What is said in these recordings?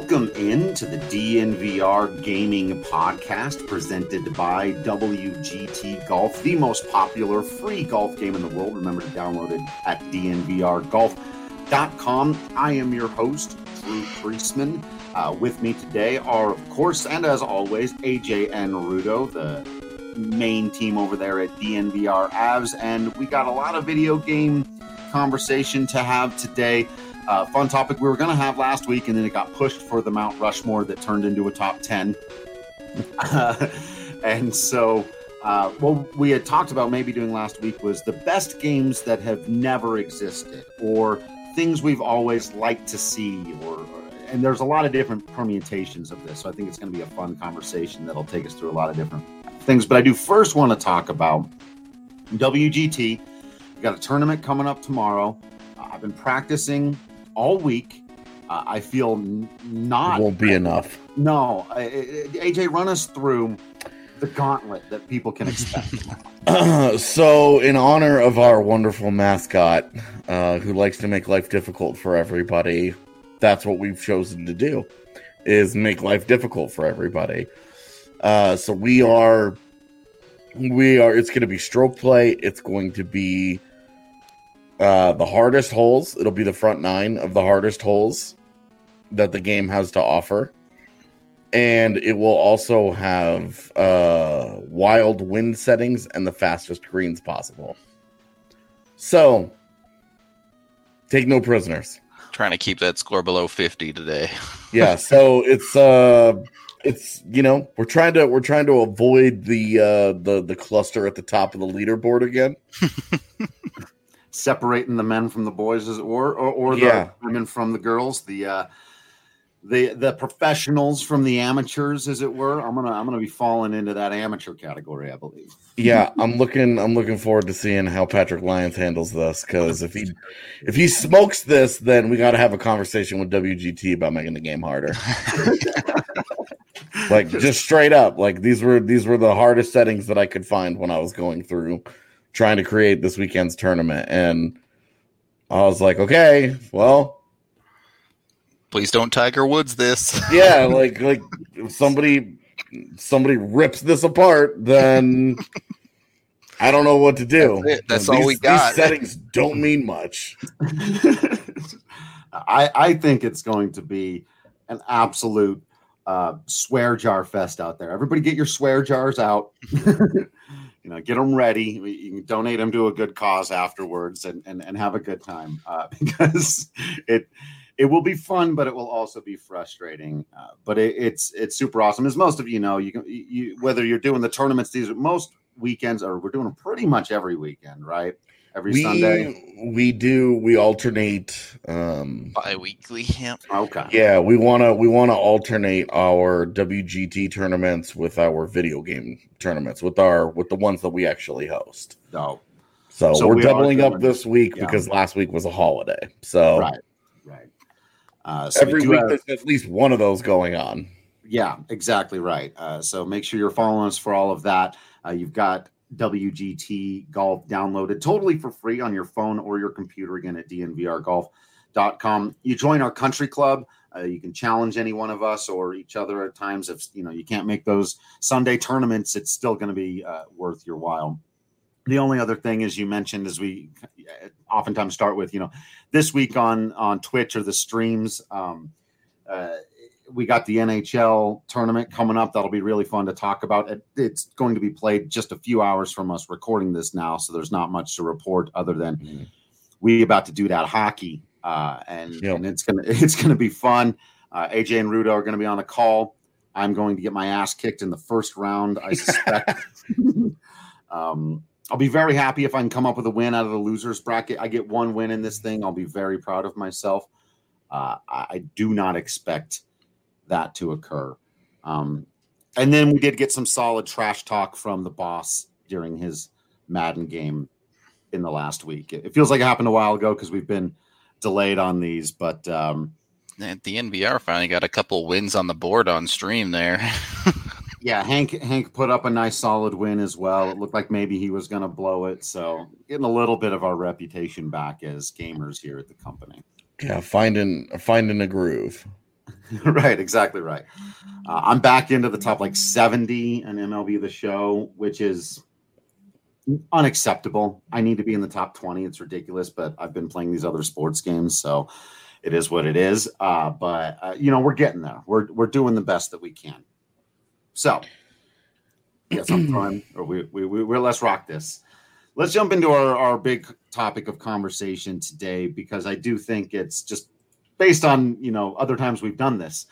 Welcome into the DNVR Gaming Podcast presented by WGT Golf, the most popular free golf game in the world. Remember to download it at dnvrgolf.com. I am your host, Drew Priestman. With me today are, of course, and as always, AJ and Rudo, the main team over there at DNVR Avs. And we got a lot of video game conversation to have today. Fun topic we were going to have last week, and then it got pushed for the Mount Rushmore that turned into a top 10. And so what we had talked about maybe doing last week was the best games that have never existed, or things we've always liked to see, and there's a lot of different permutations of this. So I think it's going to be a fun conversation that'll take us through a lot of different things. But I do first want to talk about WGT. We got a tournament coming up tomorrow. I've been practicing all week. I feel not... It won't be enough. No. AJ, run us through the gauntlet that people can expect. So, in honor of our wonderful mascot, who likes to make life difficult for everybody, that's what we've chosen to do, is make life difficult for everybody. So we are, it's going to be stroke play. It's going to be the hardest holes. It'll be the front 9 of the hardest holes that the game has to offer. And it will also have wild wind settings and the fastest greens possible. So, take no prisoners. Trying to keep that score below 50 today. Yeah, so it's we're trying to avoid the cluster at the top of the leaderboard again. Separating the men from the boys, as it were, or the women from the girls, the professionals from the amateurs, as it were. I'm gonna be falling into that amateur category, I believe. Yeah, I'm looking forward to seeing how Patrick Lyons handles this, because if he smokes this, then we got to have a conversation with WGT about making the game harder. Like, just straight up, like these were the hardest settings that I could find when I was going through trying to create this weekend's tournament, and I was like, okay, well, please don't Tiger Woods this. Yeah, like if somebody rips this apart, then I don't know what to do. That's all we got. These settings don't mean much. I think it's going to be an absolute swear jar fest out there. Everybody get your swear jars out. Get them ready. You can donate them to a good cause afterwards and have a good time, because it will be fun, but it will also be frustrating. But it's super awesome. As most of you know, you whether you're doing the tournaments, most weekends, or we're doing them pretty much every weekend, right? Sunday. We alternate bi-weekly. Yeah. Okay. Yeah, we wanna alternate our WGT tournaments with our video game tournaments, with the ones that we actually host. No. So we're doubling up this week because last week was a holiday. So right. So every week there's at least one of those going on. Yeah, exactly right. So make sure you're following us for all of that. You've got WGT Golf downloaded totally for free on your phone or your computer, again at dnvrgolf.com. You join our country club. You can challenge any one of us or each other at times. If you can't make those Sunday tournaments, it's still going to be worth your while. The only other thing, as you mentioned, as we oftentimes start with, this week on Twitch or the streams, we got the NHL tournament coming up. That'll be really fun to talk about. It's going to be played just a few hours from us recording this now, so there's not much to report other than we about to do that hockey, and it's gonna be fun. AJ and Rudo are going to be on the call. I'm going to get my ass kicked in the first round, I suspect. I'll be very happy if I can come up with a win out of the losers bracket. I get one win in this thing. I'll be very proud of myself. I do not expect that to occur. And then we did get some solid trash talk from the boss during his Madden game in the last week. It feels like it happened a while ago because we've been delayed on these, but the NVR finally got a couple wins on the board on stream there. Yeah, Hank put up a nice solid win as well. It looked like maybe he was going to blow it. So getting a little bit of our reputation back as gamers here at the company. Yeah, finding a groove. Right, exactly right. I'm back into the top like 70 in MLB The Show, which is unacceptable. I need to be in the top 20. It's ridiculous, but I've been playing these other sports games, so it is what it is. But we're getting there. We're doing the best that we can. So, yes, I'm trying. Or let's rock this. Let's jump into our big topic of conversation today, because I do think it's just based on other times we've done this.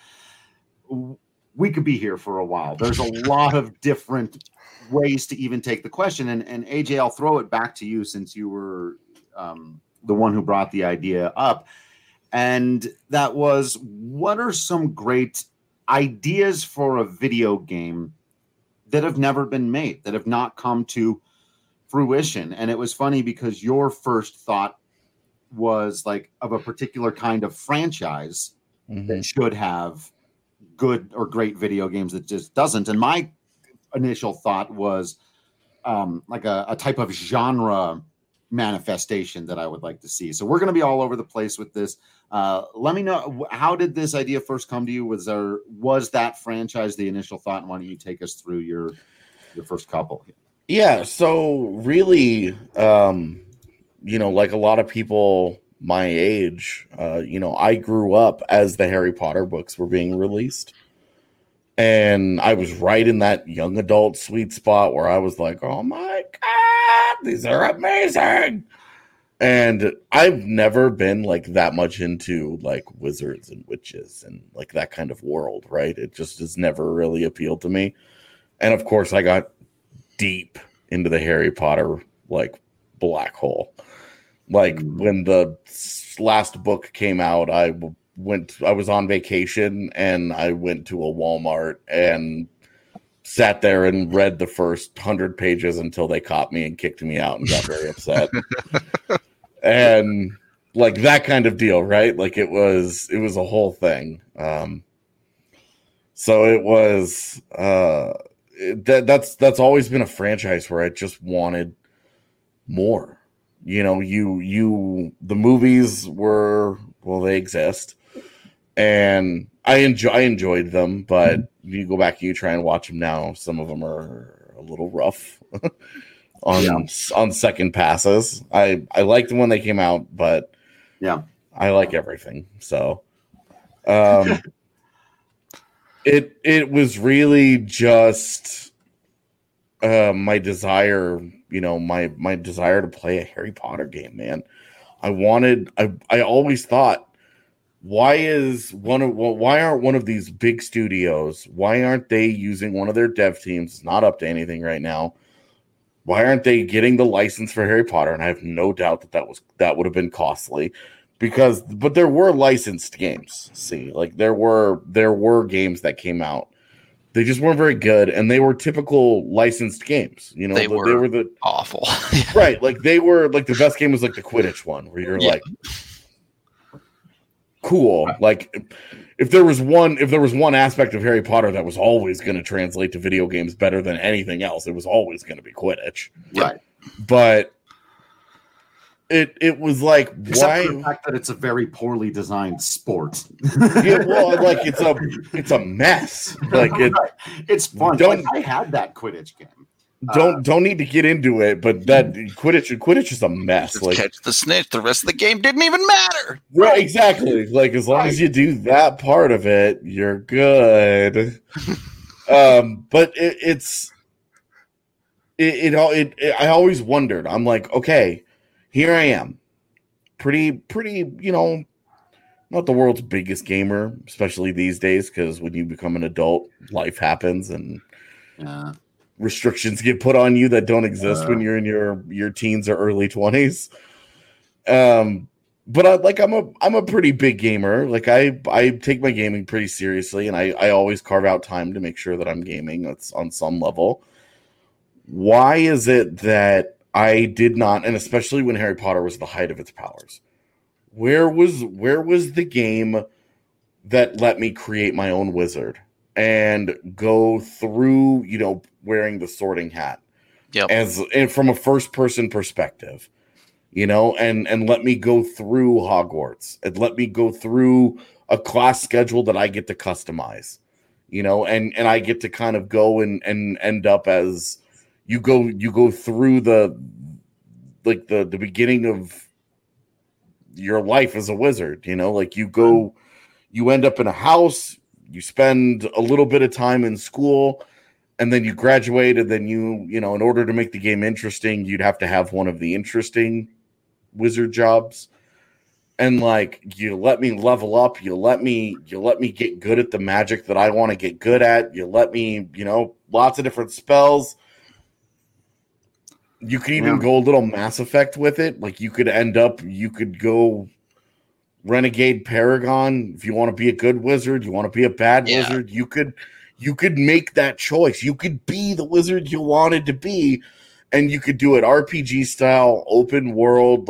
We could be here for a while. There's a lot of different ways to even take the question. And AJ, I'll throw it back to you, since you were the one who brought the idea up. And that was, what are some great ideas for a video game that have never been made, that have not come to fruition? And it was funny because your first thought was like of a particular kind of franchise that should have good or great video games that just doesn't. And my initial thought was like a type of genre manifestation that I would like to see. So we're going to be all over the place with this. Let me know, how did this idea first come to you? Was that franchise the initial thought? And why don't you take us through your first couple? Yeah, so really, like a lot of people my age, I grew up as the Harry Potter books were being released. And I was right in that young adult sweet spot where I was like, oh my God, these are amazing. And I've never been like that much into like wizards and witches and like that kind of world, right? It just has never really appealed to me. And of course, I got deep into the Harry Potter like black hole. Like when the last book came out, I was on vacation and I went to a Walmart and sat there and read the first 100 pages until they caught me and kicked me out and got very upset. And like that kind of deal, right? Like it was a whole thing. So it was that's always been a franchise where I just wanted more. The movies were, well, they exist, and I enjoyed them, but you go back and you try and watch them now, some of them are a little rough on second passes. I liked them when they came out, but yeah, I like everything. So it was really just my desire, my desire to play a Harry Potter game, man. I always thought, why aren't one of these big studios, why aren't they using one of their dev teams? It's not up to anything right now. Why aren't they getting the license for Harry Potter? And I have no doubt that would have been costly, but there were licensed games. See, like there were games that came out. They just weren't very good, and they were typical licensed games. They were the awful, right? Like they were like the best game was like the Quidditch one, where you're like, cool. Like if there was one aspect of Harry Potter that was always going to translate to video games better than anything else, it was always going to be Quidditch, right? But it was like, except why? for the fact that it's a very poorly designed sport. Yeah, well, like it's a mess. Like it's fun. I had that Quidditch game. Don't need to get into it, but that Quidditch is a mess. Just like catch the snitch. The rest of the game didn't even matter. Right, exactly. Like as long as you do that part of it, you're good. But I always wondered. I'm like, okay, here I am, pretty, not the world's biggest gamer, especially these days, because when you become an adult, life happens and restrictions get put on you that don't exist when you're in your teens or early 20s. But I'm a pretty big gamer. Like I take my gaming pretty seriously, and I always carve out time to make sure that I'm gaming. That's on some level. Why is it that I did not, and especially when Harry Potter was the height of its powers, where was the game that let me create my own wizard and go through, wearing the sorting hat, and from a first person perspective, and let me go through Hogwarts and let me go through a class schedule that I get to customize, and I get to kind of go and end up as you go through the beginning of your life as a wizard, like you end up in a house, you spend a little bit of time in school, and then you graduate, and then in order to make the game interesting, you'd have to have one of the interesting wizard jobs. And you let me level up, you let me get good at the magic that I want to get good at, you let me, lots of different spells. You could even go a little Mass Effect with it. You could go Renegade Paragon. If you want to be a good wizard, you want to be a bad wizard, you could make that choice. You could be the wizard you wanted to be, and you could do it RPG style, open world,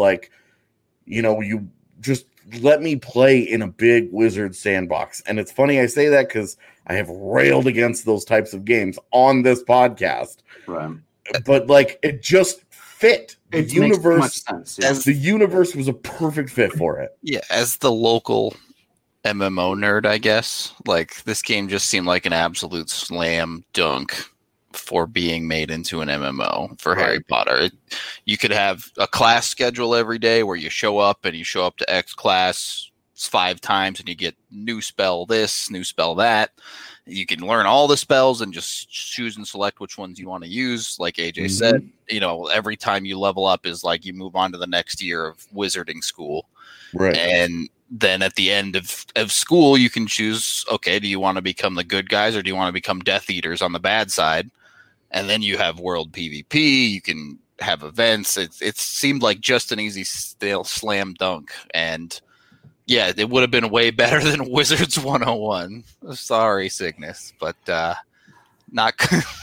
you just let me play in a big wizard sandbox. And it's funny I say that because I have railed against those types of games on this podcast. Right. But it just fit. The universe, sense, the universe was a perfect fit for it. Yeah, as the local MMO nerd, I guess, this game just seemed like an absolute slam dunk for being made into an MMO for Harry Potter. You could have a class schedule every day where you show up to X class 5 times and you get new spell this, new spell that. You can learn all the spells and just choose and select which ones you want to use. Like AJ said, every time you level up is you move on to the next year of wizarding school. Right. And then at the end of school, you can choose, okay, do you want to become the good guys or do you want to become Death Eaters on the bad side? And then you have world PvP. You can have events. It seemed like just an easy slam dunk. And yeah, it would have been way better than Wizards 101. Sorry, Cygnus, but not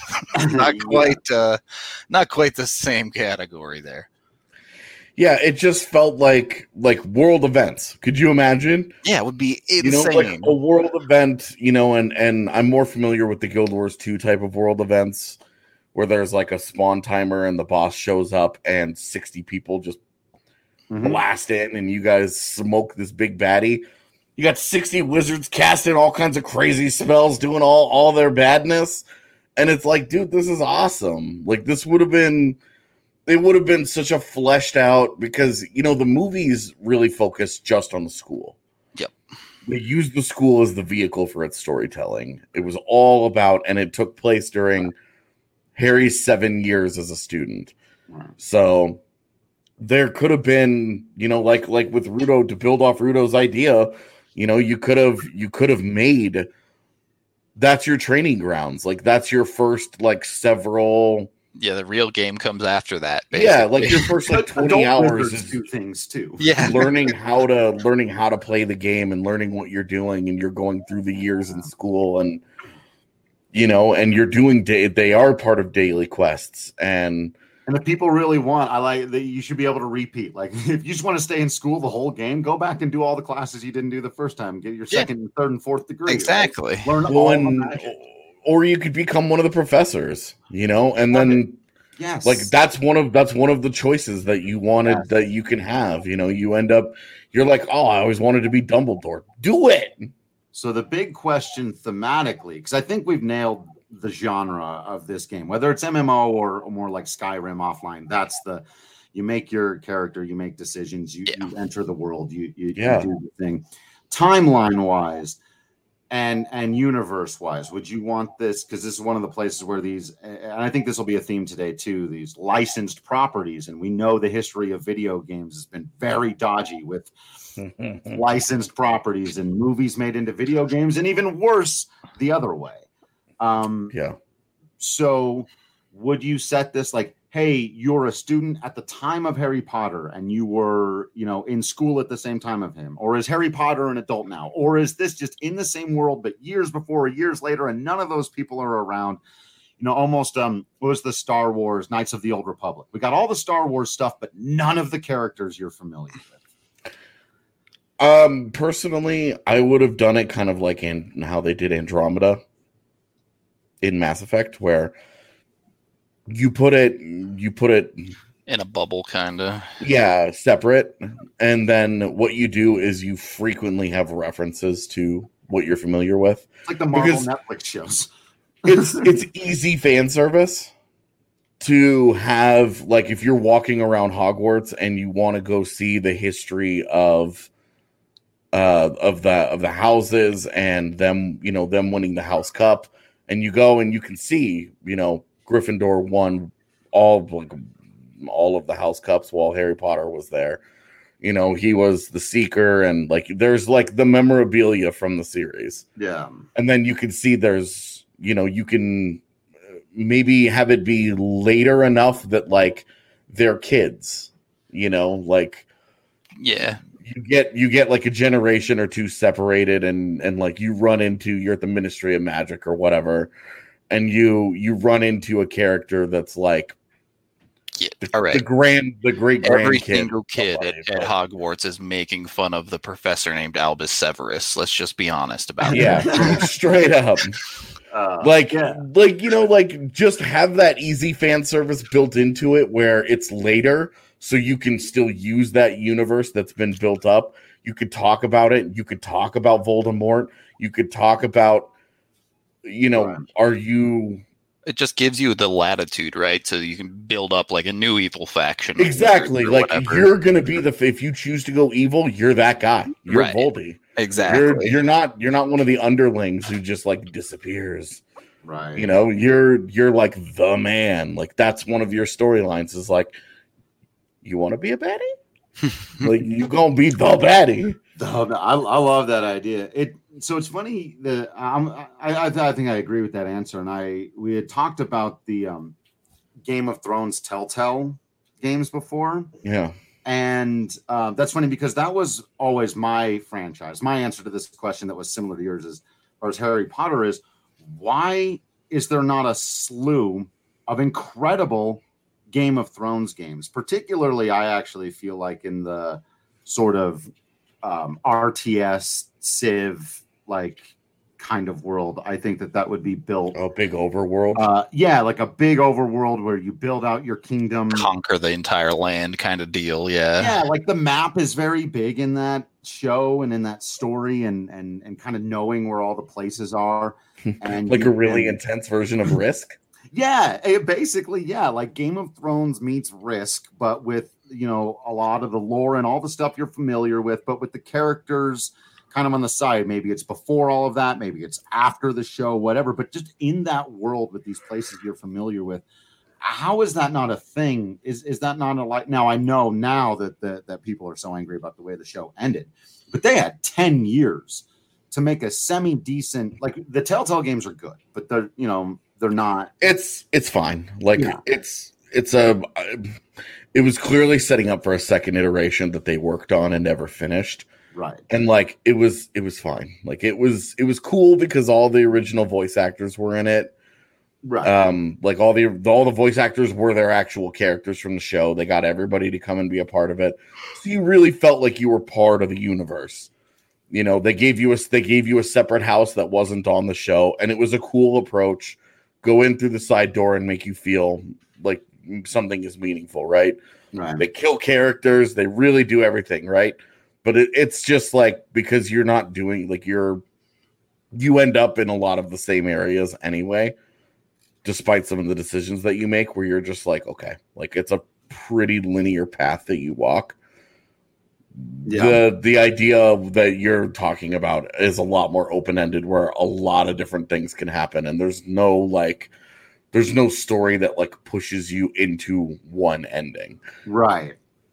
quite the same category there. Yeah, it just felt like world events. Could you imagine? Yeah, it would be insane. A world event, and I'm more familiar with the Guild Wars 2 type of world events where there's a spawn timer and the boss shows up and 60 people just blast in and you guys smoke this big baddie. You got 60 wizards casting all kinds of crazy spells, doing all their badness. And it's dude, this is awesome. This would have been such a fleshed out, because, the movies really focused just on the school. Yep. They used the school as the vehicle for its storytelling. It was all about, and it took place during Harry's 7 years as a student. So there could have been, like with Rudo, to build off Rudo's idea, you could have made, that's your training grounds. That's your first several. Yeah, the real game comes after that. Basically. Yeah, your first 20 hours is do things too. Yeah, learning how to play the game and learning what you're doing, and you're going through the years in school, and and you're doing they are part of daily quests, and if people really want, I like that you should be able to repeat. If you just want to stay in school the whole game, go back and do all the classes you didn't do the first time. Get your second, and third, and fourth degree. Exactly. Right? Learn all the magic. Or you could become one of the professors, and then that's one of the choices that you wanted that you can have. You end up, you're like, oh, I always wanted to be Dumbledore. Do it. So the big question thematically, because I think we've nailed the genre of this game, whether it's MMO or more like Skyrim offline. That's you make your character, you make decisions, you enter the world, you do the thing. Timeline wise and universe wise, would you want this? Because this is one of the places where these, and I think this will be a theme today too, these licensed properties, and we know the history of video games has been very dodgy with licensed properties and movies made into video games, and even worse the other way. So would you set this hey, you're a student at the time of Harry Potter and you were, in school at the same time of him? Or is Harry Potter an adult now? Or is this just in the same world, but years before, years later, and none of those people are around? Almost, what was the Star Wars Knights of the Old Republic? We got all the Star Wars stuff, but none of the characters you're familiar with. Personally, I would have done it kind of like in how they did Andromeda in Mass Effect, where you put it In a bubble, kind of. Yeah, separate. And then what you do is you frequently have references to what you're familiar with. It's like the Marvel Because Netflix shows. it's easy fan service to have, like, if you're walking around Hogwarts and you want to go see the history of the houses and them, you know, them winning the House Cup, and you go and you can see, you know, Gryffindor won all of the House Cups while Harry Potter was there. You know, he was the Seeker, and like there's like the memorabilia from the series. Yeah. And then you can see there's, you know, you can maybe have it be later enough that like they're kids, you know, like Yeah. you get like a generation or two separated, and like you're at the Ministry of Magic or whatever, and you run into a character that's like all right. the great Every grandkid single kid at Hogwarts is making fun of the professor named Albus Severus. Let's just be honest about it. Yeah, straight up. Like you know, like just have that easy fan service built into it where it's later, so you can still use that universe that's been built up. You could talk about it. You could talk about Voldemort. You could talk about, you know, It just gives you the latitude, right? So you can build up like a new evil faction. Exactly. Or like whatever. you're going to be if you choose to go evil, you're that guy. You're Right. Voldy. Exactly. You're not one of the underlings who just like disappears. Right. You know, you're like the man. Like that's one of your storylines is like, you want to be a baddie? Like you gonna be the baddie. I love that idea. So it's funny that I think I agree with that answer. And we had talked about the Game of Thrones Telltale games before. Yeah. And that's funny because that was always my franchise. My answer to this question that was similar to yours as far as Harry Potter is, why is there not a slew of incredible Game of Thrones games? Particularly, I actually feel like in the sort of RTS Civ like kind of world, I think that would be built a big overworld. Like a big overworld where you build out your kingdom, conquer the entire land kind of deal. Yeah, like the map is very big in that show and in that story, and kind of knowing where all the places are, and like a really intense version of Risk. Basically, like Game of Thrones meets Risk, but with, you know, a lot of the lore and all the stuff you're familiar with, but with the characters kind of on the side. Maybe it's before all of that, maybe it's after the show, whatever, but just in that world with these places you're familiar with. How is that not a thing? Is that not a like? Now I know now that people are so angry about the way the show ended, but they had 10 years to make a semi-decent, like the Telltale games are good, but they're not. It's fine. Like it was clearly setting up for a second iteration that they worked on and never finished. Right. And like it was fine. Like it was cool because all the original voice actors were in it. Right. Like all the voice actors were their actual characters from the show. They got everybody to come and be a part of it. So you really felt like you were part of the universe. You know, they gave you a separate house that wasn't on the show, and it was a cool approach. Go in through the side door and make you feel like something is meaningful, right? Right. They kill characters, they really do everything, right? But it's just like because you're not doing like you end up in a lot of the same areas anyway, despite some of the decisions that you make where you're just like, okay, like it's a pretty linear path that you walk. Yeah. The idea that you're talking about is a lot more open-ended where a lot of different things can happen, and there's no story that like pushes you into one ending. Right.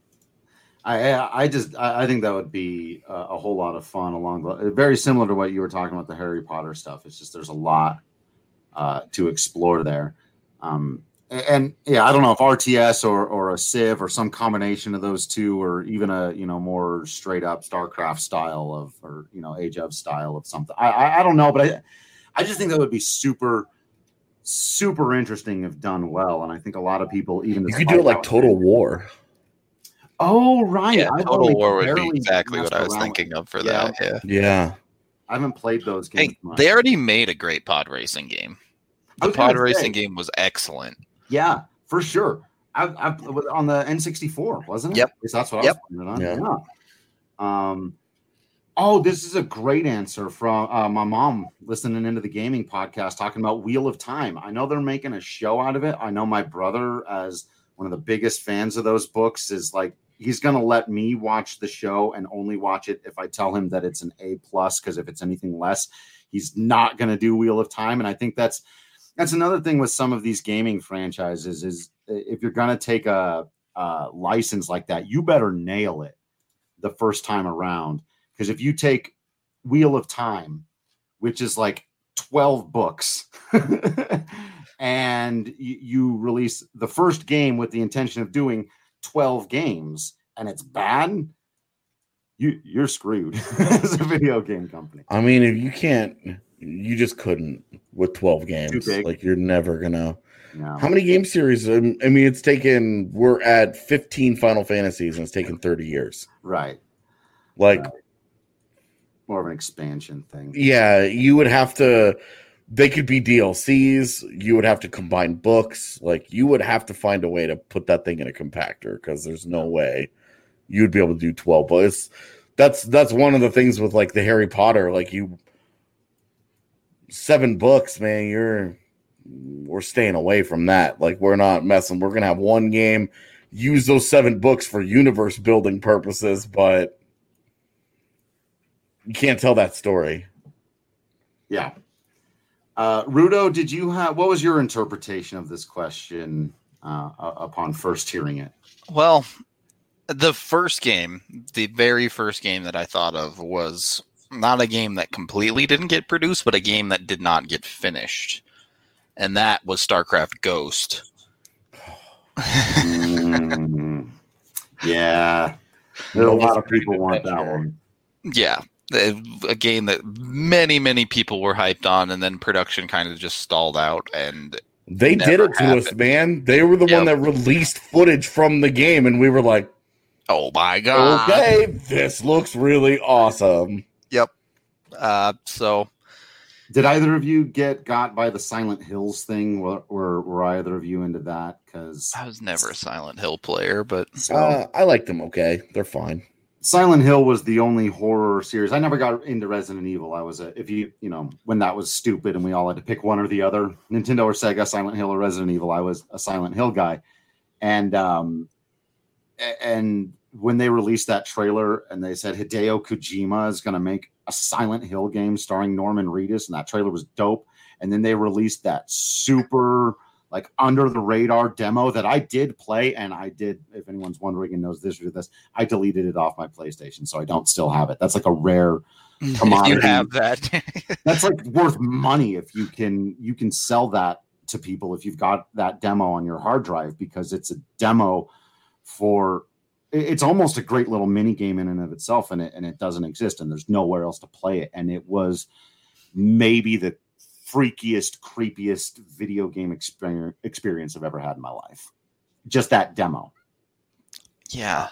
I think that would be a whole lot of fun very similar to what you were talking about, the Harry Potter stuff. It's just there's a lot to explore there. And I don't know if RTS or a Civ or some combination of those two, or even a more straight up StarCraft style or Age of style of something. I don't know, but I just think that would be super, super interesting if done well. And I think a lot I think you could do it like Total War. Oh, right. Yeah, Total War would be exactly what I was thinking of for that. Yeah. I haven't played those games. Hey, they already made a great pod racing game. The pod racing game was excellent. Yeah, for sure. I've on the N64, wasn't it? Yep. At least that's what Yep. I was playing it on. Yeah. Yeah. Oh, this is a great answer from my mom listening into the gaming podcast talking about Wheel of Time. I know they're making a show out of it. I know my brother, as one of the biggest fans of those books, is like, he's going to let me watch the show and only watch it if I tell him that it's an A+, because if it's anything less, he's not going to do Wheel of Time. And I think that's another thing with some of these gaming franchises is if you're going to take a license like that, you better nail it the first time around. Because if you take Wheel of Time, which is like 12 books, and you release the first game with the intention of doing 12 games, and it's bad, you're screwed as a video game company. I mean, if you can't, you just couldn't with 12 games. Like, you're never gonna. No. How many game series? I mean, we're at 15 Final Fantasies, and it's taken 30 years. Right. Like. Right. More of an expansion thing. Yeah, you would have to. They could be DLCs. You would have to combine books. Like, you would have to find a way to put that thing in a compactor, because there's no way you'd be able to do 12 books. That's one of the things with like the Harry Potter. Like, 7 books, man. We're staying away from that. Like, we're not messing. We're gonna have one game, use those 7 books for universe building purposes, but you can't tell that story. Yeah. Rudo, what was your interpretation of this question upon first hearing it? Well, the very first game that I thought of was not a game that completely didn't get produced, but a game that did not get finished. And that was StarCraft Ghost. Yeah. There are a lot of people want that one. Yeah. A game that many, many people were hyped on, and then production kind of just stalled out, and they did it to us, man. They were the one that released footage from the game, and we were like, "Oh my god! Okay, this looks really awesome." Yep. So, did either of you get got by the Silent Hills thing? Were either of you into that? Because I was never a Silent Hill player, but I liked them. Okay, they're fine. Silent Hill was the only horror series. I never got into Resident Evil. I was when that was stupid and we all had to pick one or the other, Nintendo or Sega, Silent Hill or Resident Evil, I was a Silent Hill guy. And when they released that trailer and they said Hideo Kojima is going to make a Silent Hill game starring Norman Reedus, and that trailer was dope. And then they released that super like under the radar demo that I did play, and I did, if anyone's wondering and knows this or this, I deleted it off my PlayStation, so I don't still have it. That's like a rare commodity. If you have that, that's like worth money if you can sell that to people if you've got that demo on your hard drive, because it's a demo for. It's almost a great little mini game in and of itself, and it doesn't exist, and there's nowhere else to play it, and it was maybe the freakiest, creepiest video game experience I've ever had in my life. Just that demo. Yeah.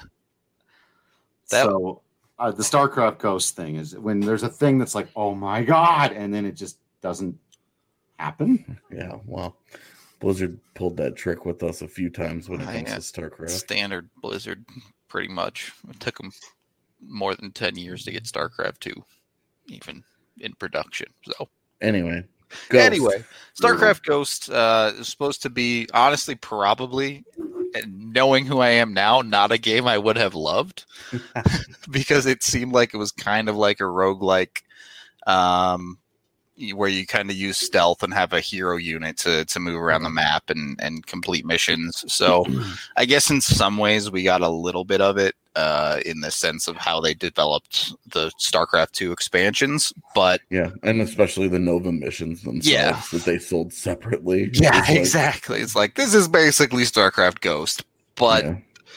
So the StarCraft Ghost thing is when there's a thing that's like, oh my god, and then it just doesn't happen. Yeah, well, Blizzard pulled that trick with us a few times when it comes to StarCraft. Standard Blizzard, pretty much. It took them more than 10 years to get StarCraft 2, even in production. So anyway, StarCraft Ghost is supposed to be, honestly, probably, knowing who I am now, not a game I would have loved because it seemed like it was kind of like a roguelike, where you kind of use stealth and have a hero unit to move around the map and complete missions. So I guess in some ways we got a little bit of it in the sense of how they developed the StarCraft 2 expansions. But yeah, and especially the Nova missions themselves that they sold separately. Yeah, exactly. It's like, this is basically StarCraft Ghost, but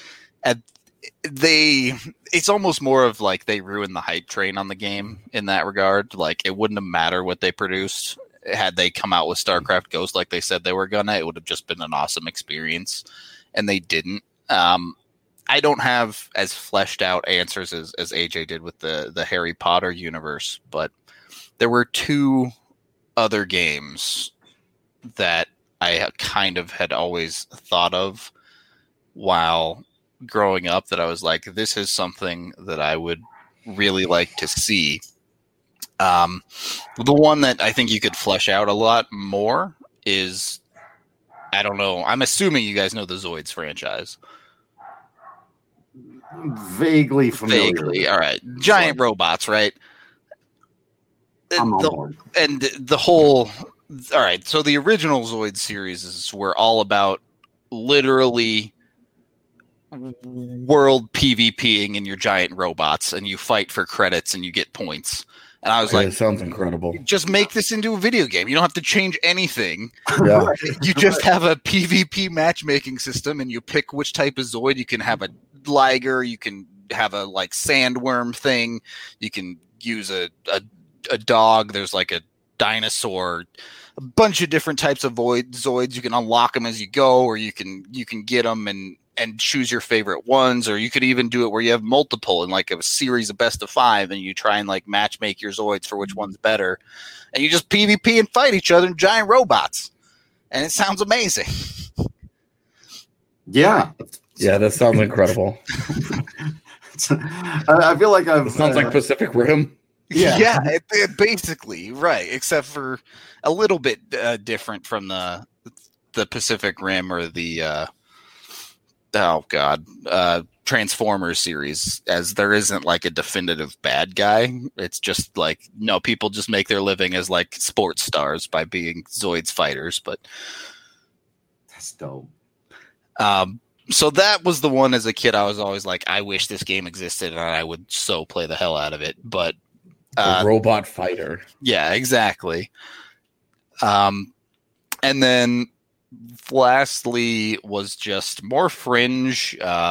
it's almost more of like they ruined the hype train on the game in that regard. Like, it wouldn't have mattered what they produced had they come out with StarCraft Ghost like they said they were gonna. It would have just been an awesome experience, and they didn't. I don't have as fleshed out answers as AJ did with the Harry Potter universe, but there were 2 other games that I kind of had always thought of while growing up that I was like, this is something that I would really like to see. The one that I think you could flesh out a lot more is, I don't know, I'm assuming you guys know the Zoids franchise. Vaguely familiar. Vaguely, all right. Giant robots, right? I'm on board. And the whole, all right, so the original Zoid series were all about literally world PvPing in your giant robots, and you fight for credits and you get points. And I was like, it sounds incredible. Just make this into a video game. You don't have to change anything. Yeah. You just have a PvP matchmaking system, and you pick which type of Zoid. You can have a Liger, you can have a like sandworm thing, you can use a dog, there's like a dinosaur, a bunch of different types of Zoids. You can unlock them as you go, or you can get them and choose your favorite ones, or you could even do it where you have multiple in like a series of best of 5, and you try and like match make your Zoids for which one's better, and you just PvP and fight each other in giant robots, and it sounds amazing. Yeah. Yeah, that sounds incredible. I feel like It sounds like Pacific Rim. Yeah, it basically, right, except for a little bit different from the Pacific Rim or the Transformers series, as there isn't like a definitive bad guy. It's just like, no, people just make their living as like sports stars by being Zoids fighters. But that's dope. So that was the one as a kid I was always like, I wish this game existed and I would so play the hell out of it. But robot fighter. Yeah, exactly. And then lastly was just more fringe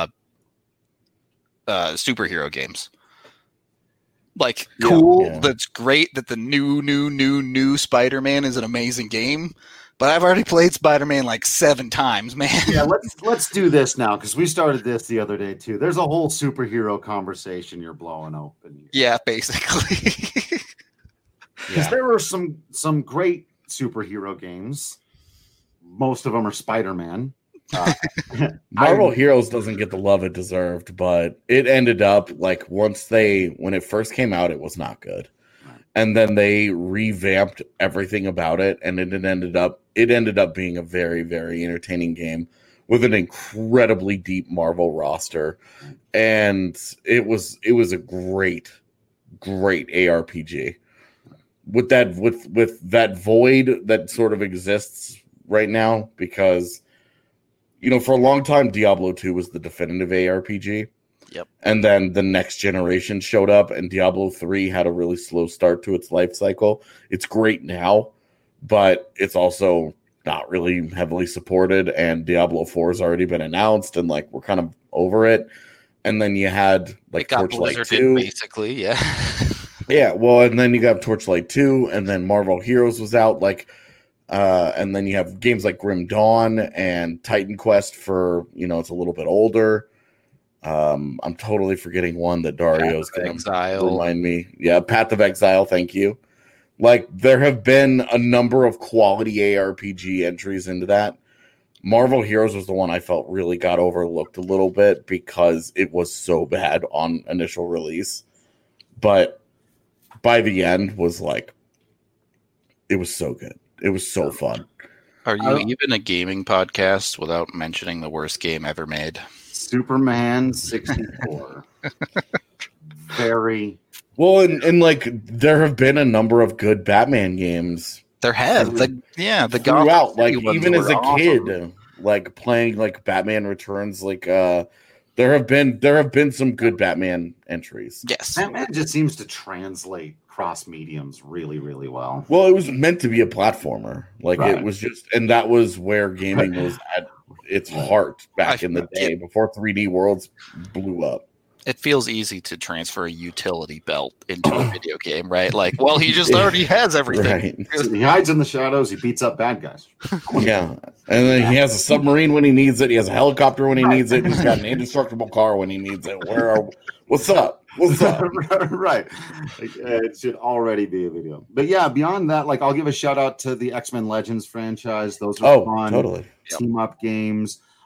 superhero games. Like, cool, yeah. That's great that the new Spider-Man is an amazing game. But I've already played Spider-Man like 7 times, man. Yeah, let's do this now, because we started this the other day too. There's a whole superhero conversation you're blowing open here. Yeah, basically. Because there were some great superhero games. Most of them are Spider-Man. Marvel Heroes doesn't get the love it deserved, but it ended up like when it first came out, it was not good. And then they revamped everything about it, and it ended up being a very, very entertaining game with an incredibly deep Marvel roster, and it was a great ARPG with that void that sort of exists right now, because for a long time Diablo 2 was the definitive ARPG. Yep. And then the next generation showed up, and Diablo 3 had a really slow start to its life cycle. It's great now, but it's also not really heavily supported, and Diablo 4 has already been announced, and like we're kind of over it. And then you had like Torchlight 2. Basically, yeah. Yeah, well, and then you got Torchlight 2, and then Marvel Heroes was out, and then you have games like Grim Dawn and Titan Quest for, it's a little bit older. I'm totally forgetting one that Dario's going to remind me. Yeah, Path of Exile, thank you. Like, there have been a number of quality ARPG entries into that. Marvel Heroes was the one I felt really got overlooked a little bit because it was so bad on initial release. But by the end was like, it was so good. It was so fun. Are you even a gaming podcast without mentioning the worst game ever made? Superman 64. Very well, and like there have been a number of good Batman games. There have, the throughout, like even as a kid, like playing like Batman Returns, like there have been some good Batman entries. Yes, Batman just seems to translate cross mediums really, really well. Well, it was meant to be a platformer, like It was just, and that was where gaming was at its heart back in the day before 3D Worlds blew up. It feels easy to transfer a utility belt into a video game, right? Like, well, he just already has everything. Right. He hides in the shadows. He beats up bad guys. Yeah. And then he has a submarine when he needs it. He has a helicopter when he needs it. He's got an indestructible car when he needs it. What's up? What's up? Right. It should already be a video. But yeah, beyond that, like I'll give a shout out to the X-Men Legends franchise. Those are fun. Totally. Team up games.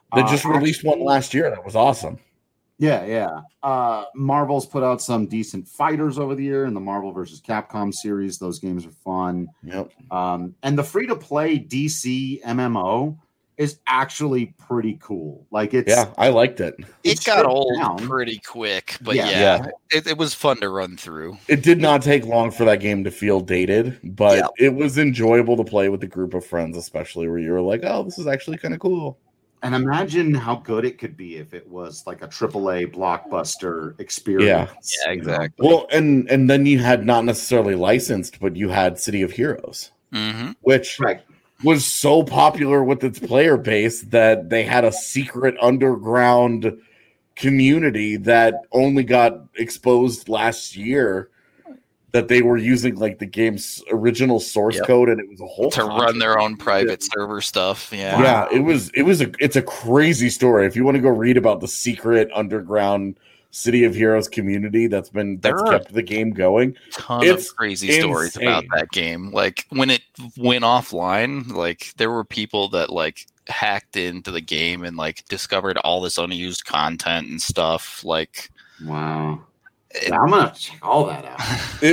They just released one last year that was awesome. Yeah. Marvel's put out some decent fighters over the year in the Marvel versus Capcom series. Those games are fun. Yep. And the free-to-play DC MMO is actually pretty cool. Like I liked it. It got old pretty quick, but it was fun to run through. It did not take long for that game to feel dated, but it was enjoyable to play with a group of friends, especially where you were like, oh, this is actually kind of cool. And imagine how good it could be if it was like a AAA blockbuster experience. Yeah, exactly. Well, and then you had not necessarily licensed, but you had City of Heroes, which was so popular with its player base that they had a secret underground community that only got exposed last year, that they were using like the game's original source code, and it was a whole to run their own private server stuff. It's a crazy story. If you want to go read about the secret underground City of Heroes community that's kept the game going, ton of crazy stories about that game. Like when it went offline, like there were people that like hacked into the game and like discovered all this unused content and stuff. Like, wow. I'm gonna check all that out.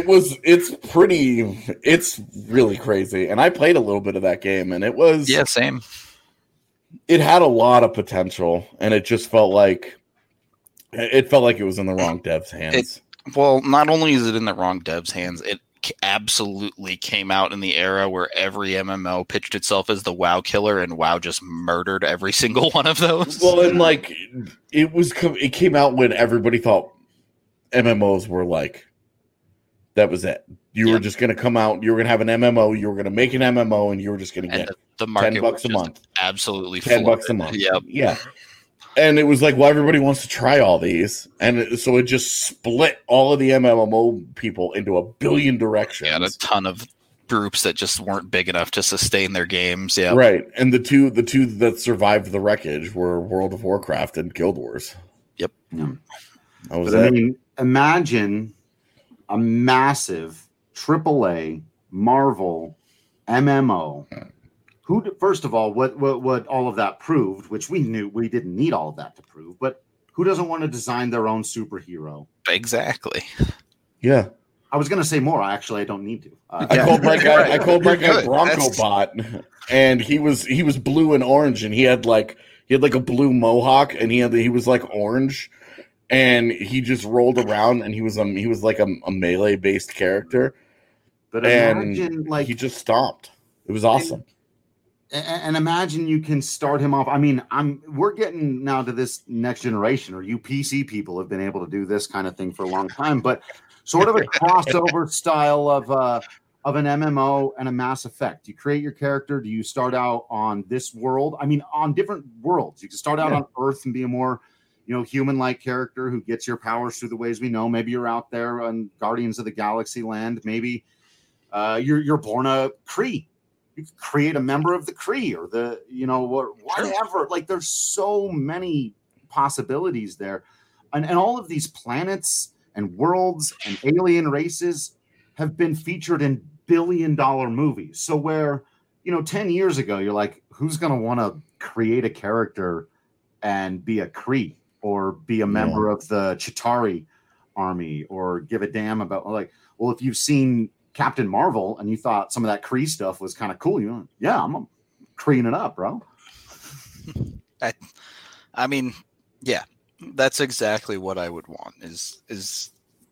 It's really crazy. And I played a little bit of that game, and it was same. It had a lot of potential, and it just felt like it was in the wrong devs' hands. Well, not only is it in the wrong devs' hands, it absolutely came out in the era where every MMO pitched itself as the WoW killer, and WoW just murdered every single one of those. Well, and like it came out when everybody thought MMOs were like, that was it. You were just going to come out, you were going to have an MMO, you were going to make an MMO, and you were just going to get the market $10 a month. Absolutely $10 a month. Yep. Yeah. And it was like, well, everybody wants to try all these. And so it just split all of the MMO people into a billion directions. Yeah, a ton of groups that just weren't big enough to sustain their games. Yeah. Right. And the two that survived the wreckage were World of Warcraft and Guild Wars. Yep. Yeah. I mean, imagine a massive AAA Marvel MMO. First of all, what all of that proved, which we knew we didn't need all of that to prove, but who doesn't want to design their own superhero? Exactly. Yeah. I was going to say more. I don't need to. I called my guy Bronco Bot, and he was blue and orange, and he had like a blue mohawk, and he was like orange. And he just rolled around, and he was like a melee based character. But imagine, like, he just stopped. It was awesome. And imagine you can start him off. I mean, we're getting now to this next generation, or you PC people have been able to do this kind of thing for a long time. But sort of a crossover style of an MMO and a Mass Effect. You create your character. Do you start out on this world? I mean, on different worlds. You can start out on Earth and be a more human-like character who gets your powers through the ways we know. Maybe you're out there on Guardians of the Galaxy land. Maybe you're born a Kree. You can create a member of the Kree or the whatever. Like there's so many possibilities there, and all of these planets and worlds and alien races have been featured in billion-dollar movies. So where 10 years ago you're like, who's going to want to create a character and be a Kree? Or be a member of the Chitauri army, or give a damn about if you've seen Captain Marvel and you thought some of that Kree stuff was kind of cool, I'm Kreeing it up, bro. I mean, yeah, that's exactly what I would want. Is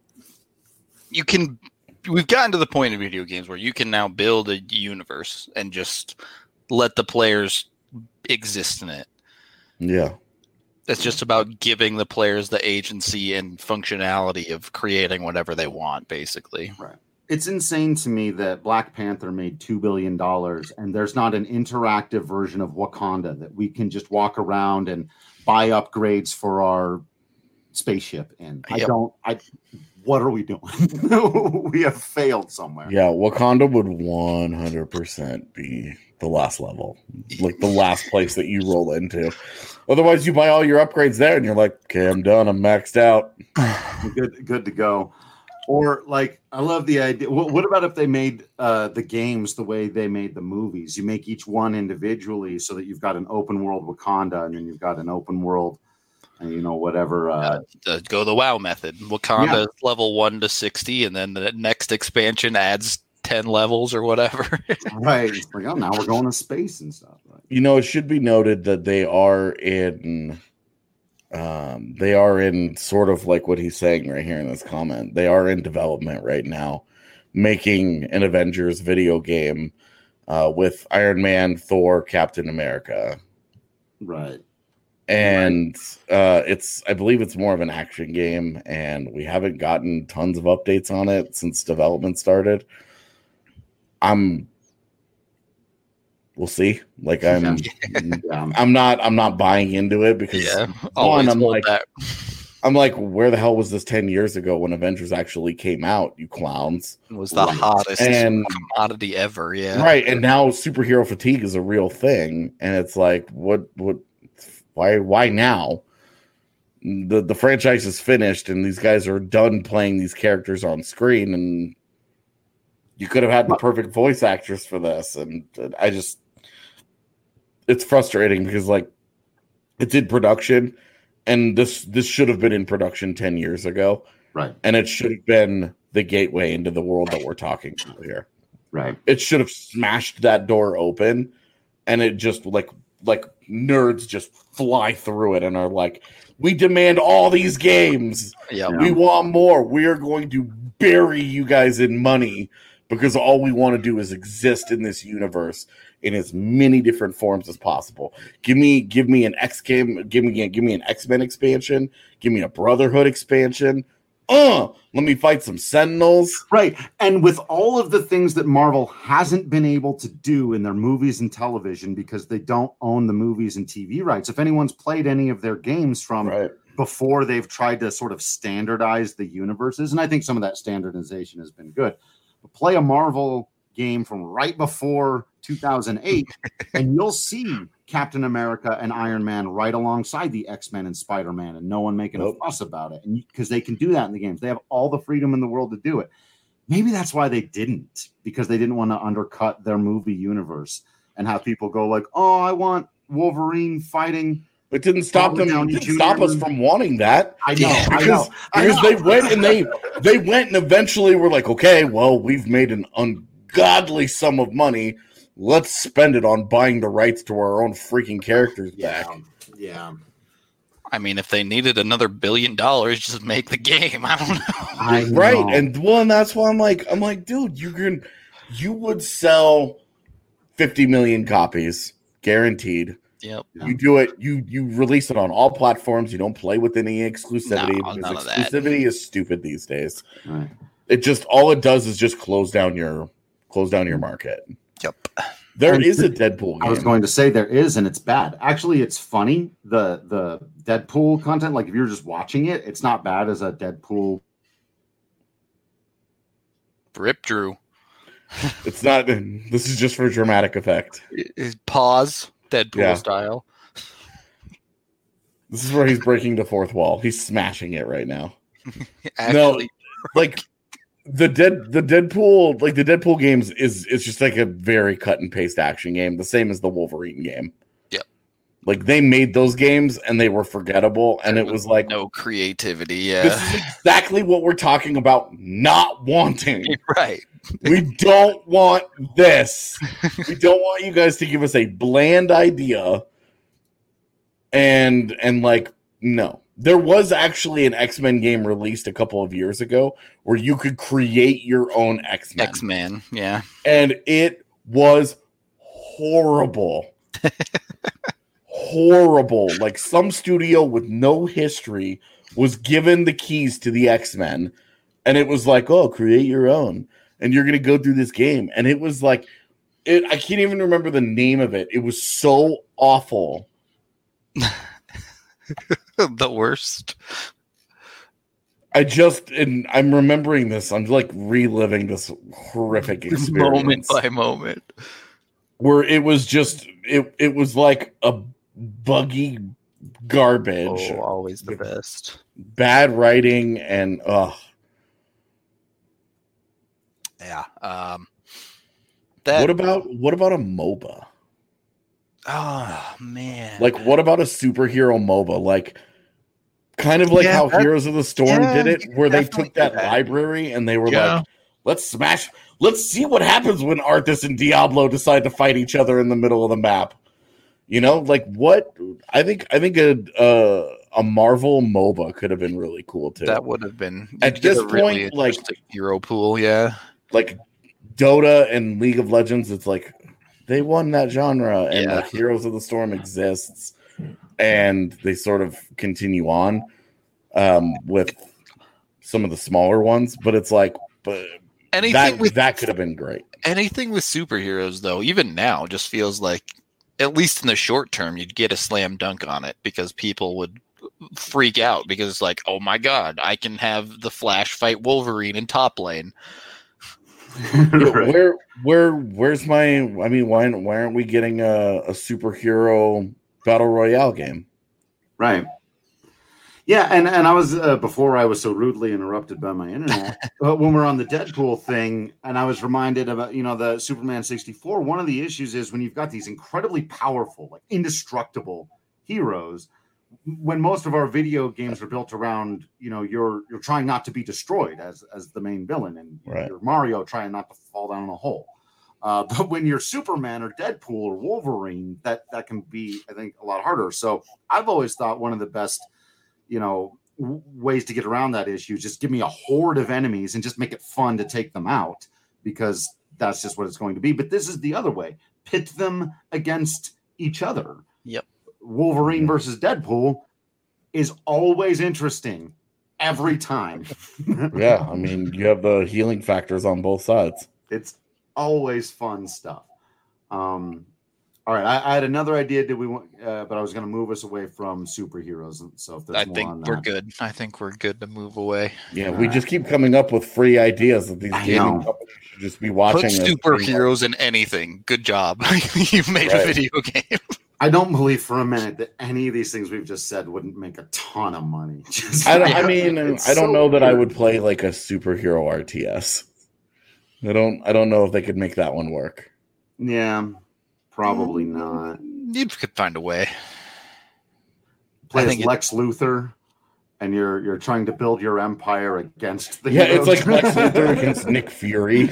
we've gotten to the point in video games where you can now build a universe and just let the players exist in it. Yeah. It's just about giving the players the agency and functionality of creating whatever they want, basically. Right. It's insane to me that Black Panther made $2 billion and there's not an interactive version of Wakanda that we can just walk around and buy upgrades for our spaceship in. What are we doing? We have failed somewhere. Yeah, Wakanda would 100% be the last level, like the last place that you roll into. Otherwise, you buy all your upgrades there, and you're like, okay, I'm done. I'm maxed out. Good to go. Or like, I love the idea. What about if they made the games the way they made the movies? You make each one individually, so that you've got an open world Wakanda, and then you've got an open world, whatever. Go the WoW method. Wakanda is level 1 to 60, and then the next expansion adds 10 levels or whatever. Right. It's like, oh, now we're going to space and stuff. Right? It should be noted that they are in sort of like what he's saying right here in this comment. They are in development right now, making an Avengers video game with Iron Man, Thor, Captain America. Right. And I believe it's more of an action game, and we haven't gotten tons of updates on it since development started. We'll see. Like I'm not buying into it because I'm like, where the hell was this 10 years ago when Avengers actually came out, you clowns? It was the hottest commodity ever, yeah. Right, and now superhero fatigue is a real thing, and it's like, why now? The franchise is finished, and these guys are done playing these characters on screen, and you could have had the perfect voice actress for this, and it's frustrating because like it's in production, and this should have been in production 10 years ago, right? And it should have been the gateway into the world that we're talking about here, right? It should have smashed that door open, and it just like nerds just fly through it and are like, we demand all these games. Yeah. We want more. We are going to bury you guys in money because all we want to do is exist in this universe in as many different forms as possible. Give me an X game, give me an X-Men expansion, give me a Brotherhood expansion. Let me fight some Sentinels. Right. And with all of the things that Marvel hasn't been able to do in their movies and television because they don't own the movies and TV rights. If anyone's played any of their games from before they've tried to sort of standardize the universes, and I think some of that standardization has been good. But play a Marvel game from right before 2008 and you'll see Captain America and Iron Man right alongside the X-Men and Spider-Man, and no one making a fuss about it, and because they can do that in the games. They have all the freedom in the world to do it. Maybe that's why they didn't, because they didn't want to undercut their movie universe and have people go like, oh, I want Wolverine fighting. It didn't stop them. It didn't stop us from wanting that. I know. Because they went and they went and eventually were like, okay, well, we've made an ungodly sum of money. Let's spend it on buying the rights to our own freaking characters back. Yeah. I mean, if they needed another $1 billion, just make the game. I don't know. Right. And that's why I'm like, dude, you would sell 50 million copies guaranteed. Yep. You do it. You release it on all platforms. You don't play with any exclusivity because exclusivity is stupid these days. Right. It just all it does is just close down your market. Yep. There is a Deadpool game. I was going to say there is, and it's bad. Actually, it's funny. The Deadpool content, like if you're just watching it, it's not bad as a Deadpool. Rip Drew. It's not. This is just for dramatic effect. Pause. Deadpool style. This is where he's breaking the fourth wall. He's smashing it right now. Actually, no, like the Deadpool games is just like a very cut and paste action game, the same as the Wolverine game. Yep. Like they made those games and they were forgettable, and it was like no creativity. Yeah, this is exactly what we're talking about. Not wanting. Right. We don't want this. We don't want you guys to give us a bland idea. And like, no. There was actually an X-Men game released a couple of years ago where you could create your own X-Men. X-Men, yeah. And it was horrible. Horrible. Like some studio with no history was given the keys to the X-Men. And it was like, oh, create your own. And you're going to go through this game. And it was like, I can't even remember the name of it. It was so awful. The worst. I'm remembering this. I'm like reliving this horrific experience. Moment by moment. Where it was just, it was like a buggy garbage. Oh, always the best. Bad writing and, Yeah. What about a MOBA? Oh man. Like, what about a superhero MOBA? Like, kind of like how Heroes of the Storm did it, where they took that library and they were like, let's see what happens when Arthas and Diablo decide to fight each other in the middle of the map. You know, like what? I think a Marvel MOBA could have been really cool too. That would have been at this point, really like hero pool, yeah. Like Dota and League of Legends, it's like they won that genre, and like Heroes of the Storm exists, and they sort of continue on with some of the smaller ones. But it's like, but that could have been great. Anything with superheroes, though, even now, just feels like, at least in the short term, you'd get a slam dunk on it because people would freak out because it's like, oh my god, I can have the Flash fight Wolverine in top lane. Right. Where's my? I mean, why aren't we getting a superhero battle royale game? Right. Yeah, and I was before I was so rudely interrupted by my internet. When we're on the Deadpool thing, and I was reminded about the Superman 64. One of the issues is when you've got these incredibly powerful, like indestructible heroes. When most of our video games are built around, you're trying not to be destroyed as the main villain, and you're Mario trying not to fall down in a hole. But when you're Superman or Deadpool or Wolverine, that can be, I think, a lot harder. So I've always thought one of the best, ways to get around that issue is just give me a horde of enemies and just make it fun to take them out, because that's just what it's going to be. But this is the other way: pit them against each other. Yep. Wolverine versus Deadpool is always interesting every time. Yeah, I mean, you have the healing factors on both sides. It's always fun stuff. All right, I had another idea. Did we want? But I was going to move us away from superheroes. So if there's more on that, we're good. I think we're good to move away. Yeah, we just keep coming up with free ideas that these gaming companies should just be watching. Put superheroes in anything. Good job. You've made a video game. I don't believe for a minute that any of these things we've just said wouldn't make a ton of money. I don't know that I would play like a superhero RTS. I don't know if they could make that one work. Yeah, probably not. You could find a way. Play as Lex Luthor, and you're trying to build your empire against the it's like Lex Luthor against Nick Fury.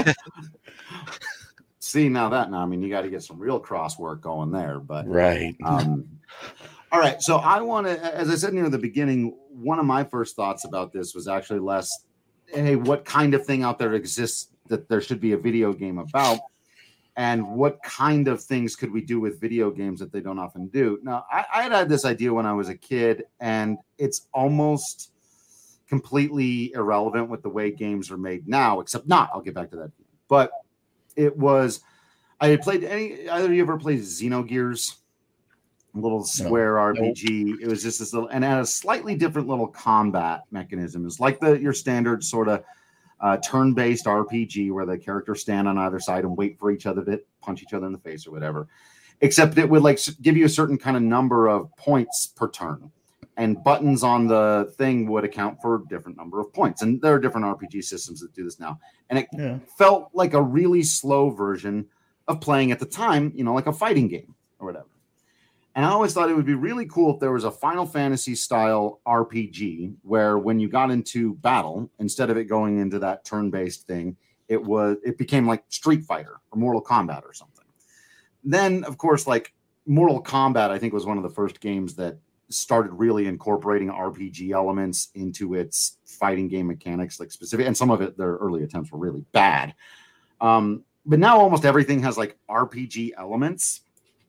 See, I mean, you got to get some real cross work going there, but right. All right. So I want to, as I said near the beginning, one of my first thoughts about this was actually less, hey, what kind of thing out there exists that there should be a video game about, and what kind of things could we do with video games that they don't often do? Now, I had this idea when I was a kid, and it's almost completely irrelevant with the way games are made now, except not. I'll get back to that. But it was, I had played either of you ever played Xenogears? A little square RPG. Nope. It was just this little, and it had a slightly different little combat mechanism. It's like your standard sort of turn-based RPG where the characters stand on either side and wait for each other to punch each other in the face or whatever. Except it would like give you a certain kind of number of points per turn, and buttons on the thing would account for a different number of points. And there are different RPG systems that do this now. And it felt like a really slow version of playing at the time, like a fighting game or whatever. And I always thought it would be really cool if there was a Final Fantasy style RPG where when you got into battle, instead of it going into that turn-based thing, it became like Street Fighter or Mortal Kombat or something. Then, of course, like Mortal Kombat, I think, was one of the first games that started really incorporating RPG elements into its fighting game mechanics, like specific, and some of it, their early attempts were really bad. But now almost everything has like RPG elements.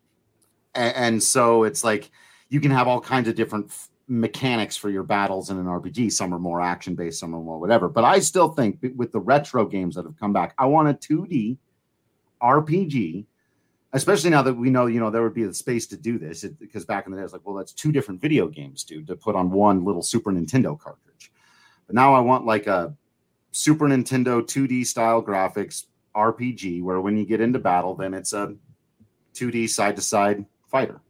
And so it's like you can have all kinds of different mechanics for your battles in an RPG. Some are more action-based, some are more whatever. But I still think with the retro games that have come back, I want a 2D RPG, especially now that we know, there would be the space to do this. Because back in the day, it's like, well, that's two different video games, dude, to put on one little Super Nintendo cartridge. But now I want like a Super Nintendo 2D style graphics RPG where when you get into battle, then it's a 2D side-to-side fighter.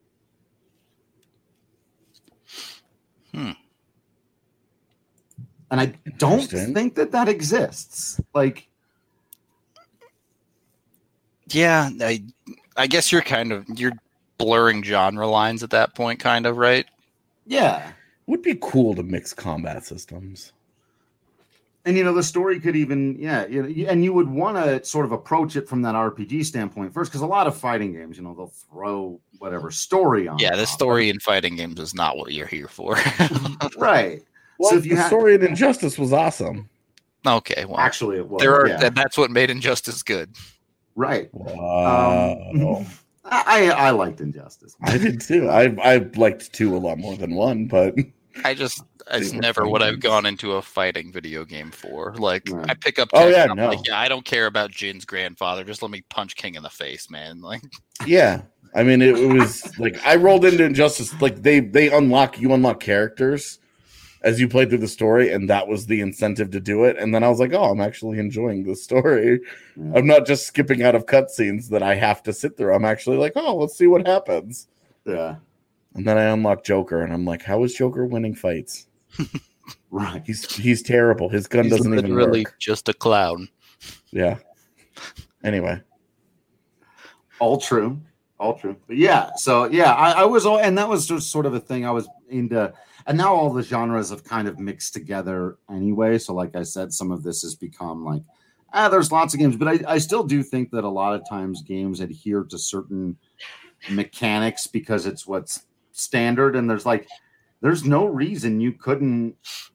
And I don't think that exists. Like, Yeah, I guess you're blurring genre lines at that point, kind of, right? Yeah. Would be cool to mix combat systems. And, the story could even, and you would want to sort of approach it from that RPG standpoint first, because a lot of fighting games, they'll throw whatever story on. Yeah, the story in fighting games is not what you're here for. Right. Well, so if the story in Injustice was awesome. Okay, well, actually, it was. That's what made Injustice good. Right. Wow. I liked Injustice. I did too. I liked 2 a lot more than 1, but it's never what I've gone into a fighting video game for. Like, right. I pick up. I don't care about Jin's grandfather. Just let me punch King in the face, man. Like, yeah. I mean, it was like I rolled into Injustice. Like you unlock characters as you play through the story, and that was the incentive to do it. And then I was like, oh, I'm actually enjoying the story. Yeah. I'm not just skipping out of cutscenes that I have to sit through. I'm actually like, oh, let's see what happens. Yeah. And then I unlock Joker, and I'm like, how is Joker winning fights? Right. He's terrible. His gun doesn't even work. Really just a clown. Yeah. Anyway. All true. But yeah, so yeah, I was all, and that was just sort of a thing I was into. And now all the genres have kind of mixed together anyway. So like I said, some of this has become like, there's lots of games, but I still do think that a lot of times games adhere to certain mechanics because it's what's standard. And there's no reason you couldn't,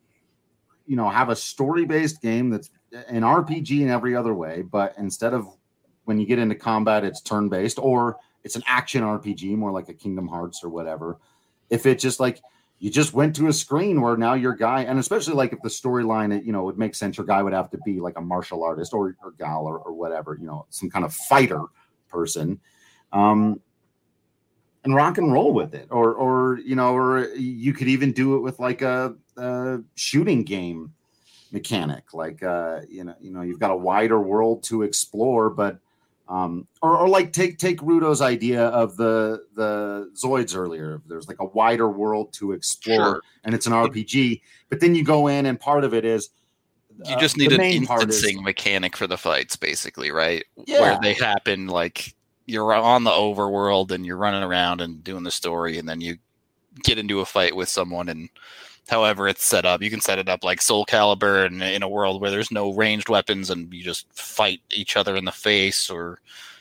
have a story-based game that's an RPG in every other way, but instead of when you get into combat, it's turn-based, or it's an action RPG, more like a Kingdom Hearts or whatever. If it just like, you just went to a screen where now your guy, and especially like if the storyline, it would make sense, your guy would have to be like a martial artist or gal or whatever, some kind of fighter person, and rock and roll with it. Or you could even do it with like a shooting game mechanic. Like, you've got a wider world to explore, but or like take Rudo's idea of the Zoids earlier. There's like a wider world to explore, sure, and it's an RPG. But then you go in, and part of it is you just need an instancing mechanic for the fights, basically, right? Yeah. Where they happen, like you're on the overworld and you're running around and doing the story, and then you get into a fight with someone, and however it's set up, you can set it up like Soul Calibur and in a world where there's no ranged weapons and you just fight each other in the face. Or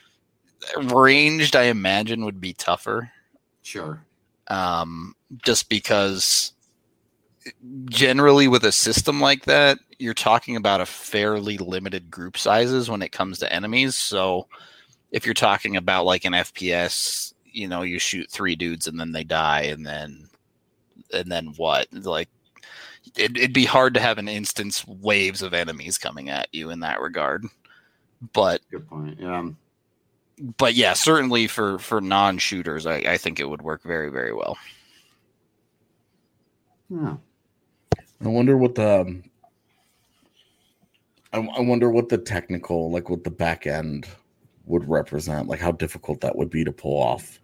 ranged, I imagine, would be tougher. Sure. Just because generally with a system like that, you're talking about a fairly limited group sizes when it comes to enemies. So if you're talking about like an FPS, you shoot 3 dudes and then they die, and then what? Like, it'd be hard to have an instance waves of enemies coming at you in that regard. But good point. Yeah. But yeah, certainly for non-shooters, I think it would work very, very well. Yeah. I wonder what the technical, like what the back end would represent, like how difficult that would be to pull off.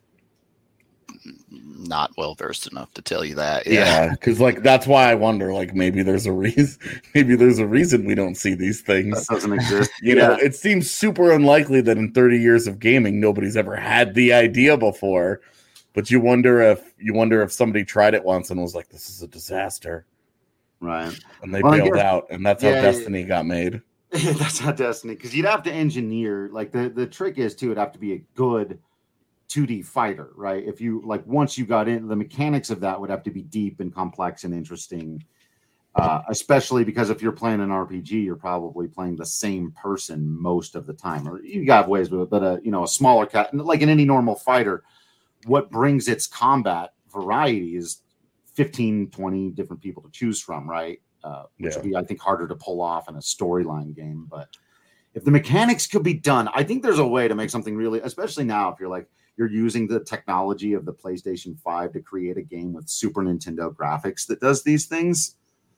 Not well versed enough to tell you that. Yeah, because like that's why I wonder. Like maybe there's a reason. Maybe there's a reason we don't see these things. That doesn't exist. You know, it seems super unlikely that in 30 years of gaming, nobody's ever had the idea before. But you wonder if somebody tried it once and was like, "This is a disaster," right? And they bailed out, and that's how Destiny got made. That's how Destiny, because you'd have to engineer. Like the trick is too, it'd have to be a good 2D fighter, right? If you like, once you got in, the mechanics of that would have to be deep and complex and interesting, especially because if you're playing an RPG, you're probably playing the same person most of the time, or you got ways with it, but a smaller cat, like in any normal fighter, what brings its combat variety is 15, 20 different people to choose from, right? Which would be, I think, harder to pull off in a storyline game. But if the mechanics could be done, I think there's a way to make something really, especially now, if you're using the technology of the PlayStation 5 to create a game with Super Nintendo graphics that does these things.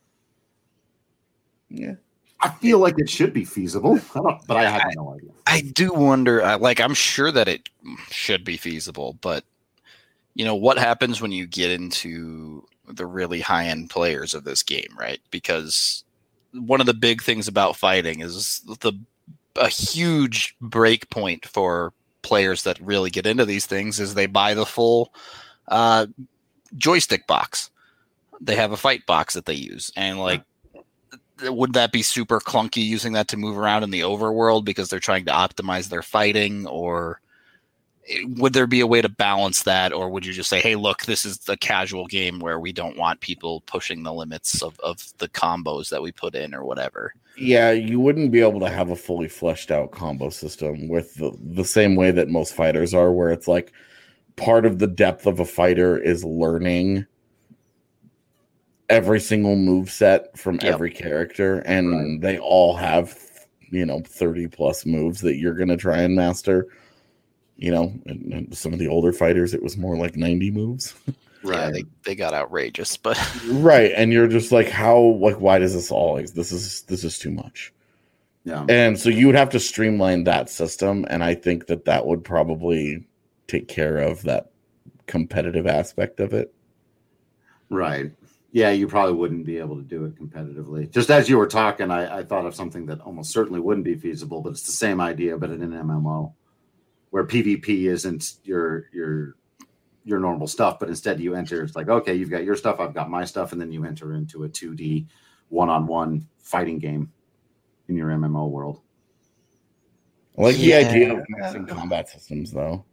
Yeah. I feel like it should be feasible, but I have no idea. I do wonder, I'm sure that it should be feasible, but what happens when you get into the really high-end players of this game, right? Because one of the big things about fighting is the a huge break point for players that really get into these things is they buy the full joystick box. They have a fight box that they use, and like, would that be super clunky using that to move around in the overworld because they're trying to optimize their fighting, or would there be a way to balance that, or would you just say, hey, look, this is the casual game where we don't want people pushing the limits of the combos that we put in or whatever? Yeah, you wouldn't be able to have a fully fleshed out combo system with the same way that most fighters are, where it's like part of the depth of a fighter is learning every single move set from every character, and they all have 30 plus moves that you're going to try and master. And some of the older fighters, it was more like 90 moves. Right. Yeah, they got outrageous, but right. And you're just like, why does this all, this is too much. Yeah. And so you would have to streamline that system. And I think that would probably take care of that competitive aspect of it. Right. Yeah, you probably wouldn't be able to do it competitively. Just as you were talking, I thought of something that almost certainly wouldn't be feasible, but it's the same idea, but in an MMO where PvP isn't your normal stuff, but instead you enter, it's like, okay, you've got your stuff, I've got my stuff, and then you enter into a 2D one-on-one fighting game in your MMO world. I like the idea of mixing combat systems, though.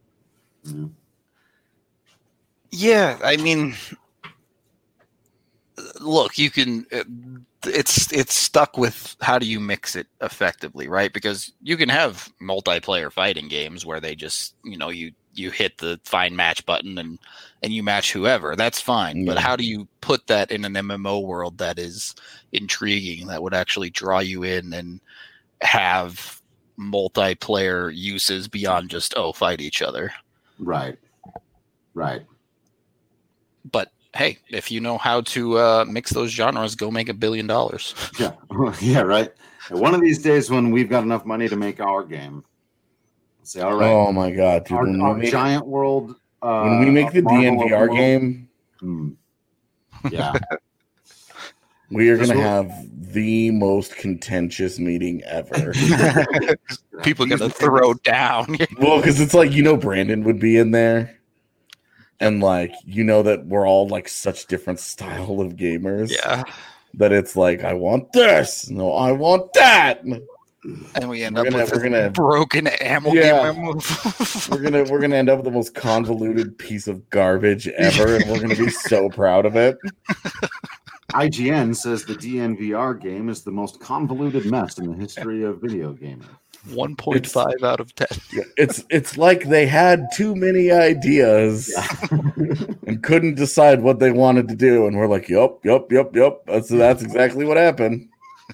Yeah, I mean, look, you can. It's stuck with how do you mix it effectively, right? Because you can have multiplayer fighting games where they just, you hit the find match button and you match whoever. That's fine. Yeah. But how do you put that in an MMO world that is intriguing, that would actually draw you in and have multiplayer uses beyond just, fight each other? Right. But hey, if you know how to mix those genres, go make $1 billion. Yeah. Yeah, right. And one of these days when we've got enough money to make our game, say, all right. Oh my God, dude. Our giant world. When we make the DNVR game, yeah, we are going to have the most contentious meeting ever. People are going to throw down. Well, because it's like, Brandon would be in there. And like, that we're all like such different style of gamers. Yeah. That it's like, I want this. No, I want that. And we end up with a broken ammo game. we're gonna end up with the most convoluted piece of garbage ever, and we're gonna be so proud of it. IGN says the DNVR game is the most convoluted mess in the history of video gaming. 1.5 out of 10. It's like they had too many ideas and couldn't decide what they wanted to do, and we're like, yup. That's exactly what happened.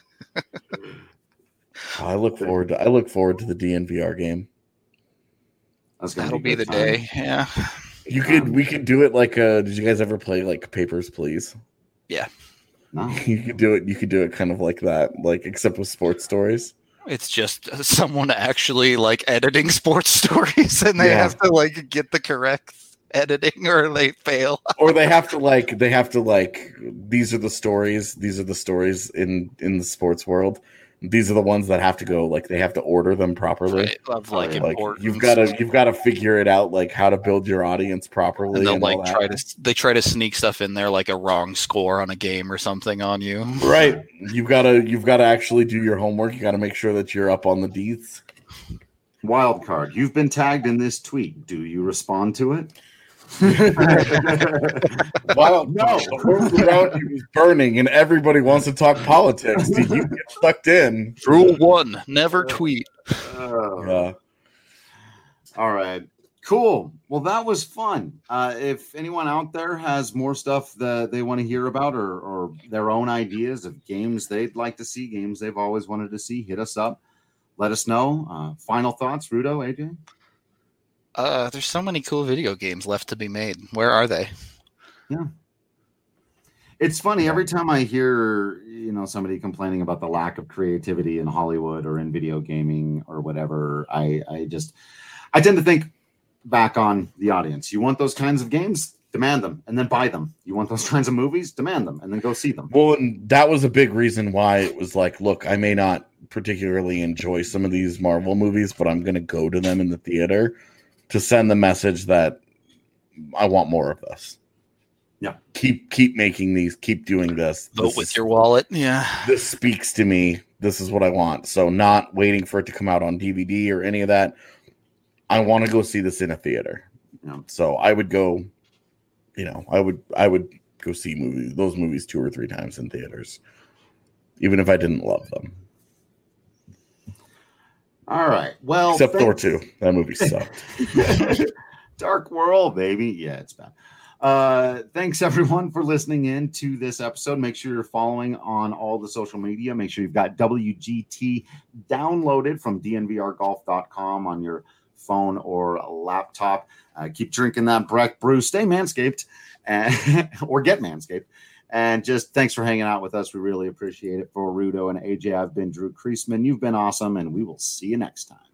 I look forward to the DNVR game. That'll be the day. Yeah. We could do it like did you guys ever play like Papers, Please? Yeah. No. You could do it kind of like that, like except with sports stories. It's just someone actually like editing sports stories, and they have to like get the correct editing, or they fail. Or they have to like these are the stories in the sports world. These are the ones that have to go, like they have to order them properly. Right. Of like you've got to figure it out, like how to build your audience properly. And they'll like try to sneak stuff in there, like a wrong score on a game or something on you. Right. You've got to actually do your homework. You got to make sure that you're up on the deets. Wild card. You've been tagged in this tweet. Do you respond to it? Well, no, the world around you is burning and everybody wants to talk politics. Do you get sucked in? Rule 1, never tweet. Yeah. All right. Cool. Well, that was fun. If anyone out there has more stuff that they want to hear about, or their own ideas of games they'd like to see, games they've always wanted to see, hit us up. Let us know. Final thoughts, Rudo, AJ? There's so many cool video games left to be made. Where are they? Yeah. It's funny. Every time I hear, somebody complaining about the lack of creativity in Hollywood or in video gaming or whatever, I tend to think back on the audience. You want those kinds of games? Demand them and then buy them. You want those kinds of movies? Demand them and then go see them. Well, and that was a big reason why it was like, look, I may not particularly enjoy some of these Marvel movies, but I'm going to go to them in the theater to send the message that I want more of this. Yeah. Keep making these, keep doing this. Vote with your wallet. Yeah. This speaks to me. This is what I want. So not waiting for it to come out on DVD or any of that. I want to go see this in a theater. Yeah. So I would go, I would go see those movies 2 or 3 times in theaters, even if I didn't love them. All right. Well, except Thor 2. That movie sucked. Dark World, baby. Yeah, it's bad. Thanks everyone for listening in to this episode. Make sure you're following on all the social media. Make sure you've got WGT downloaded from dnvrgolf.com on your phone or a laptop. Keep drinking that Breck brew. Stay Manscaped or get Manscaped. And just thanks for hanging out with us. We really appreciate it. For Rudo and AJ, I've been Drew Creasman. You've been awesome, and we will see you next time.